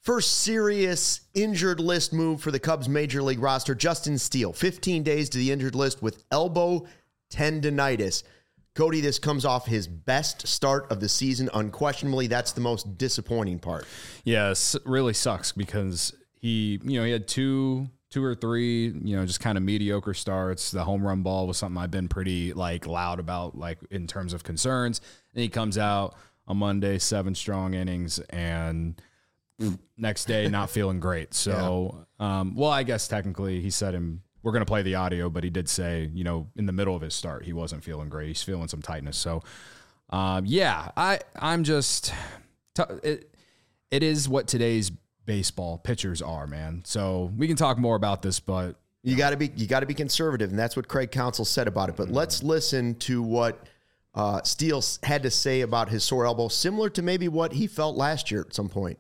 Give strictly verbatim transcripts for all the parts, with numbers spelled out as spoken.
First serious injured list move for the Cubs major league roster. Justin Steele, fifteen days to the injured list with elbow tendonitis. Cody, this comes off his best start of the season. Unquestionably, that's the most disappointing part. Yes, it really sucks because he, you know, he had two, two or three, you know, just kind of mediocre starts. The home run ball was something I've been pretty like loud about, like in terms of concerns. And he comes out on Monday, seven strong innings, and next day not feeling great. So, yeah. um, well, I guess technically he said him. We're going to play the audio, but he did say, you know, in the middle of his start, he wasn't feeling great. He's feeling some tightness. So, um, yeah, I, I'm just, t- it, it is what today's baseball pitchers are, man. So we can talk more about this, but you got to be, you got to be conservative. And that's what Craig Counsell said about it. But mm-hmm. let's listen to what uh, Steele had to say about his sore elbow, similar to maybe what he felt last year at some point.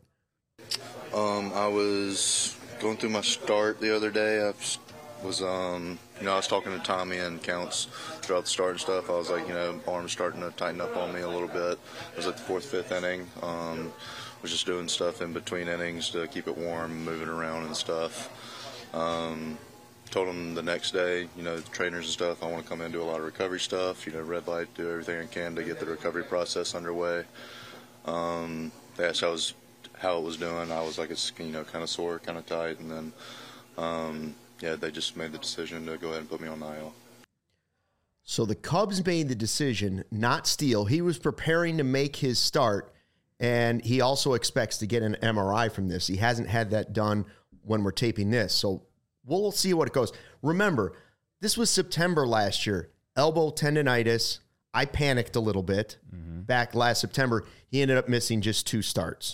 Um, I was going through my start the other day. I was, um, you know, I was talking to Tommy and Counts throughout the start and stuff. I was like, you know, arm's starting to tighten up on me a little bit. I was at the fourth, fifth inning. Um, was just doing stuff in between innings to keep it warm, moving around and stuff. Um, told him the next day, you know, the trainers and stuff, I want to come in and do a lot of recovery stuff, you know, red light, do everything I can to get the recovery process underway. Um, they asked how I was how it was doing. I was like, it's, you know, kind of sore, kind of tight. And then, um, yeah, they just made the decision to go ahead and put me on the I L. So the Cubs made the decision, not Steele. He was preparing to make his start, and he also expects to get an M R I from this. He hasn't had that done when we're taping this. So we'll see what it goes. Remember, this was September last year. Elbow tendonitis. I panicked a little bit mm-hmm. back last September. He ended up missing just two starts.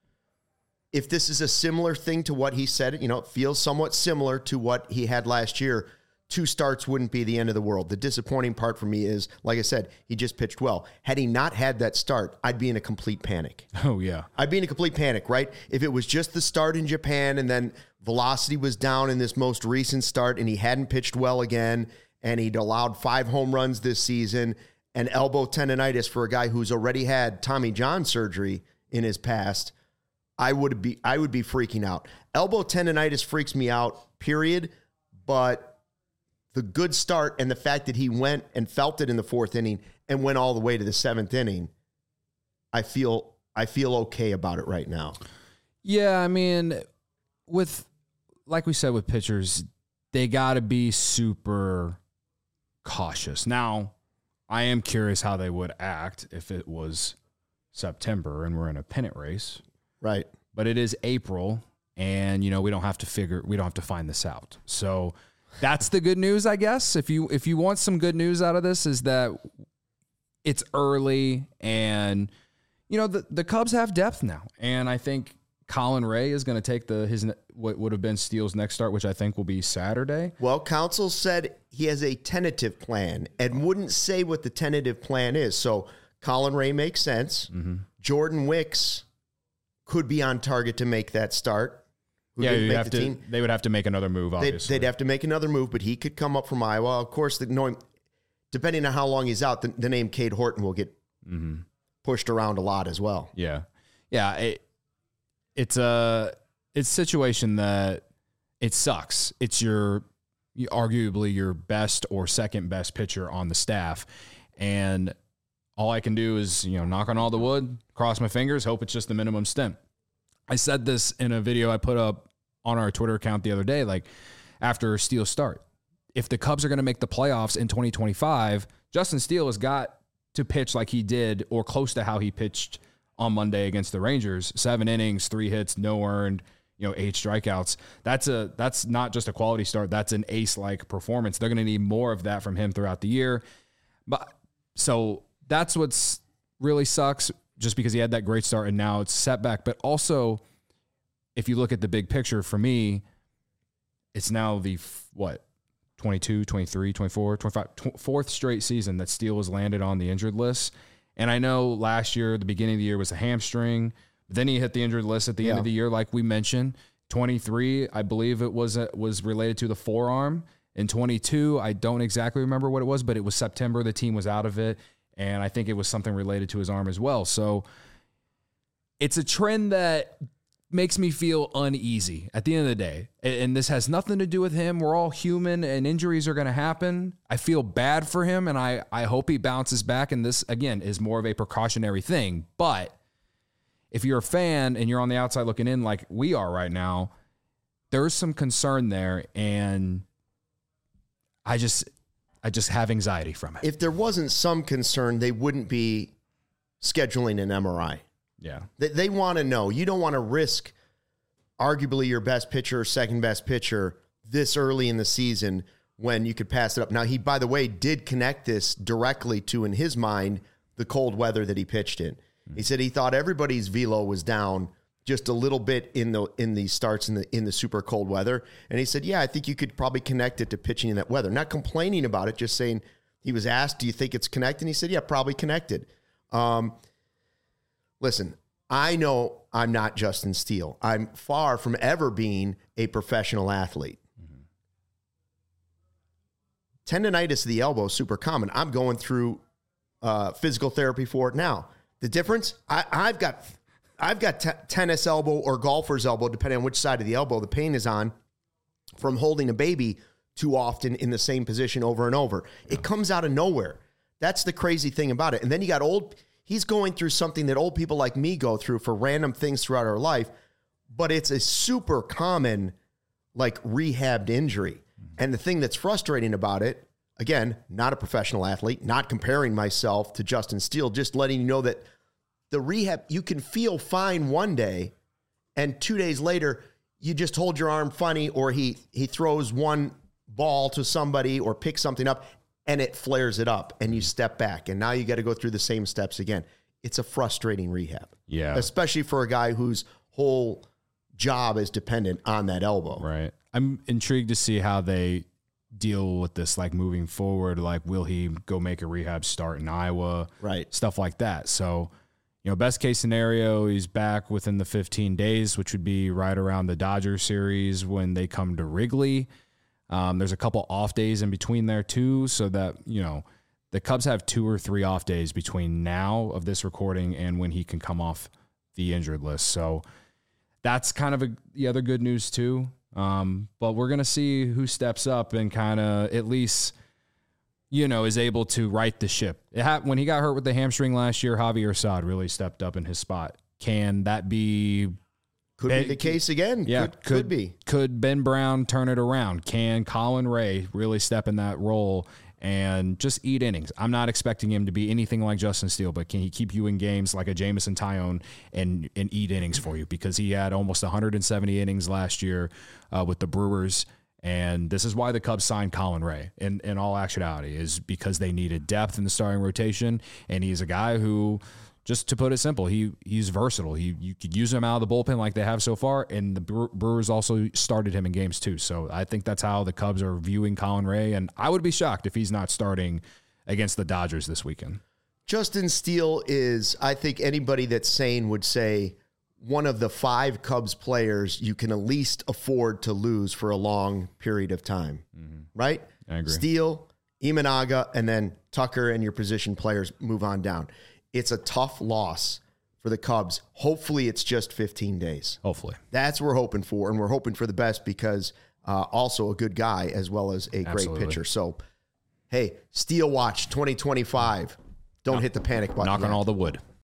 If this is a similar thing to what he said, you know, it feels somewhat similar to what he had last year, two starts wouldn't be the end of the world. The disappointing part for me is, like I said, he just pitched well. Had he not had that start, I'd be in a complete panic. Oh, yeah. I'd be in a complete panic, right? If it was just the start in Japan and then velocity was down in this most recent start and he hadn't pitched well again and he'd allowed five home runs this season and elbow tendonitis for a guy who's already had Tommy John surgery in his past, I would be I would be freaking out. Elbow tendonitis freaks me out, period. But the good start and the fact that he went and felt it in the fourth inning and went all the way to the seventh inning, I feel I feel okay about it right now. Yeah, I mean, with like we said with pitchers, they got to be super cautious. Now, I am curious how they would act if it was September and we're in a pennant race. Right. But it is April, and, you know, we don't have to figure, we don't have to find this out. So that's the good news, I guess. If you, if you want some good news out of this, is that it's early and, you know, the, the Cubs have depth now. And I think Colin Ray is going to take the, his, what would have been Steele's next start, which I think will be Saturday. Well, Counsell said he has a tentative plan and wouldn't say what the tentative plan is. So Colin Ray makes sense. Mm-hmm. Jordan Wicks could be on target to make that start. Who yeah, didn't make have the to, team. They would have to make another move, obviously. They'd, they'd have to make another move, but he could come up from Iowa. Of course, the, knowing, depending on how long he's out, the, the name Cade Horton will get mm-hmm. pushed around a lot as well. Yeah. Yeah, it, it's a it's a situation that it sucks. It's your arguably your best or second best pitcher on the staff, and all I can do is, you know, knock on all the wood, cross my fingers, hope it's just the minimum stint. I said this in a video I put up on our Twitter account the other day, like after Steele's start. If the Cubs are going to make the playoffs in twenty twenty-five, Justin Steele has got to pitch like he did or close to how he pitched on Monday against the Rangers. Seven innings, three hits, no earned, you know, eight strikeouts. That's a that's not just a quality start. That's an ace-like performance. They're going to need more of that from him throughout the year. But so that's what's really sucks, just because he had that great start and now it's setback. But also, if you look at the big picture, for me, it's now the, what, twenty-two, twenty-three, twenty-four, twenty-five, tw- fourth straight season that Steele has landed on the injured list. And I know last year, the beginning of the year was a hamstring. Then he hit the injured list at the yeah. end of the year, like we mentioned. twenty-three, I believe it was uh, was related to the forearm. In twenty-two, I don't exactly remember what it was, but it was September. The team was out of it. And I think it was something related to his arm as well. So it's a trend that makes me feel uneasy at the end of the day. And this has nothing to do with him. We're all human and injuries are going to happen. I feel bad for him and I, I hope he bounces back. And this, again, is more of a precautionary thing. But if you're a fan and you're on the outside looking in like we are right now, there's some concern there. And I just, I just have anxiety from it. If there wasn't some concern, they wouldn't be scheduling an M R I. Yeah. They, they want to know. You don't want to risk arguably your best pitcher or second best pitcher this early in the season when you could pass it up. Now, he, by the way, did connect this directly to, in his mind, the cold weather that he pitched in. Mm-hmm. He said he thought everybody's velo was down just a little bit in the in the starts in the in the super cold weather. And he said, yeah, I think you could probably connect it to pitching in that weather. Not complaining about it, just saying, he was asked, do you think it's connected? And he said, yeah, probably connected. Um, listen, I know I'm not Justin Steele. I'm far from ever being a professional athlete. Mm-hmm. Tendonitis of the elbow is super common. I'm going through uh, physical therapy for it now. The difference, I, I've got I've got t- tennis elbow or golfer's elbow, depending on which side of the elbow the pain is on, from holding a baby too often in the same position over and over. Yeah. It comes out of nowhere. That's the crazy thing about it. And then you got old, he's going through something that old people like me go through for random things throughout our life, but it's a super common, like, rehabbed injury. Mm-hmm. And the thing that's frustrating about it, again, not a professional athlete, not comparing myself to Justin Steele, just letting you know that the rehab, you can feel fine one day, and two days later, you just hold your arm funny, or he he throws one ball to somebody or picks something up, and it flares it up, and you step back, and now you got to go through the same steps again. It's a frustrating rehab. Yeah. Especially for a guy whose whole job is dependent on that elbow. Right. I'm intrigued to see how they deal with this, like, moving forward. Like, will he go make a rehab start in Iowa? Right. Stuff like that. So, you know, best case scenario, he's back within the fifteen days, which would be right around the Dodgers series when they come to Wrigley. Um, there's a couple off days in between there too, so that, you know, the Cubs have two or three off days between now of this recording and when he can come off the injured list. So that's kind of a, the other good news too. Um, but we're going to see who steps up and kind of at least, you know, is able to right the ship. It ha- when he got hurt with the hamstring last year, Javier Assad really stepped up in his spot. Can that be... Could ben, be the case again. Yeah, could, could, could be. Could Ben Brown turn it around? Can Colin Ray really step in that role and just eat innings? I'm not expecting him to be anything like Justin Steele, but can he keep you in games like a Jameson Taillon and and eat innings for you? Because he had almost one hundred seventy innings last year uh, with the Brewers, and this is why the Cubs signed Colin Ray. In in all actuality, is because they needed depth in the starting rotation, and he's a guy who, just to put it simple, he he's versatile. He you could use him out of the bullpen like they have so far, and the Brewers also started him in games too. So I think that's how the Cubs are viewing Colin Ray, and I would be shocked if he's not starting against the Dodgers this weekend. Justin Steele is, I think anybody that's sane would say, one of the five Cubs players you can at least afford to lose for a long period of time, mm-hmm. right? I agree. Steele, Imanaga, and then Tucker and your position players move on down. It's a tough loss for the Cubs. Hopefully it's just fifteen days. Hopefully. That's what we're hoping for, and we're hoping for the best because uh, also a good guy as well as a Absolutely. great pitcher. So, hey, Steele Watch twenty twenty-five. Don't Knock, hit the panic button. Knock yet. on all the wood.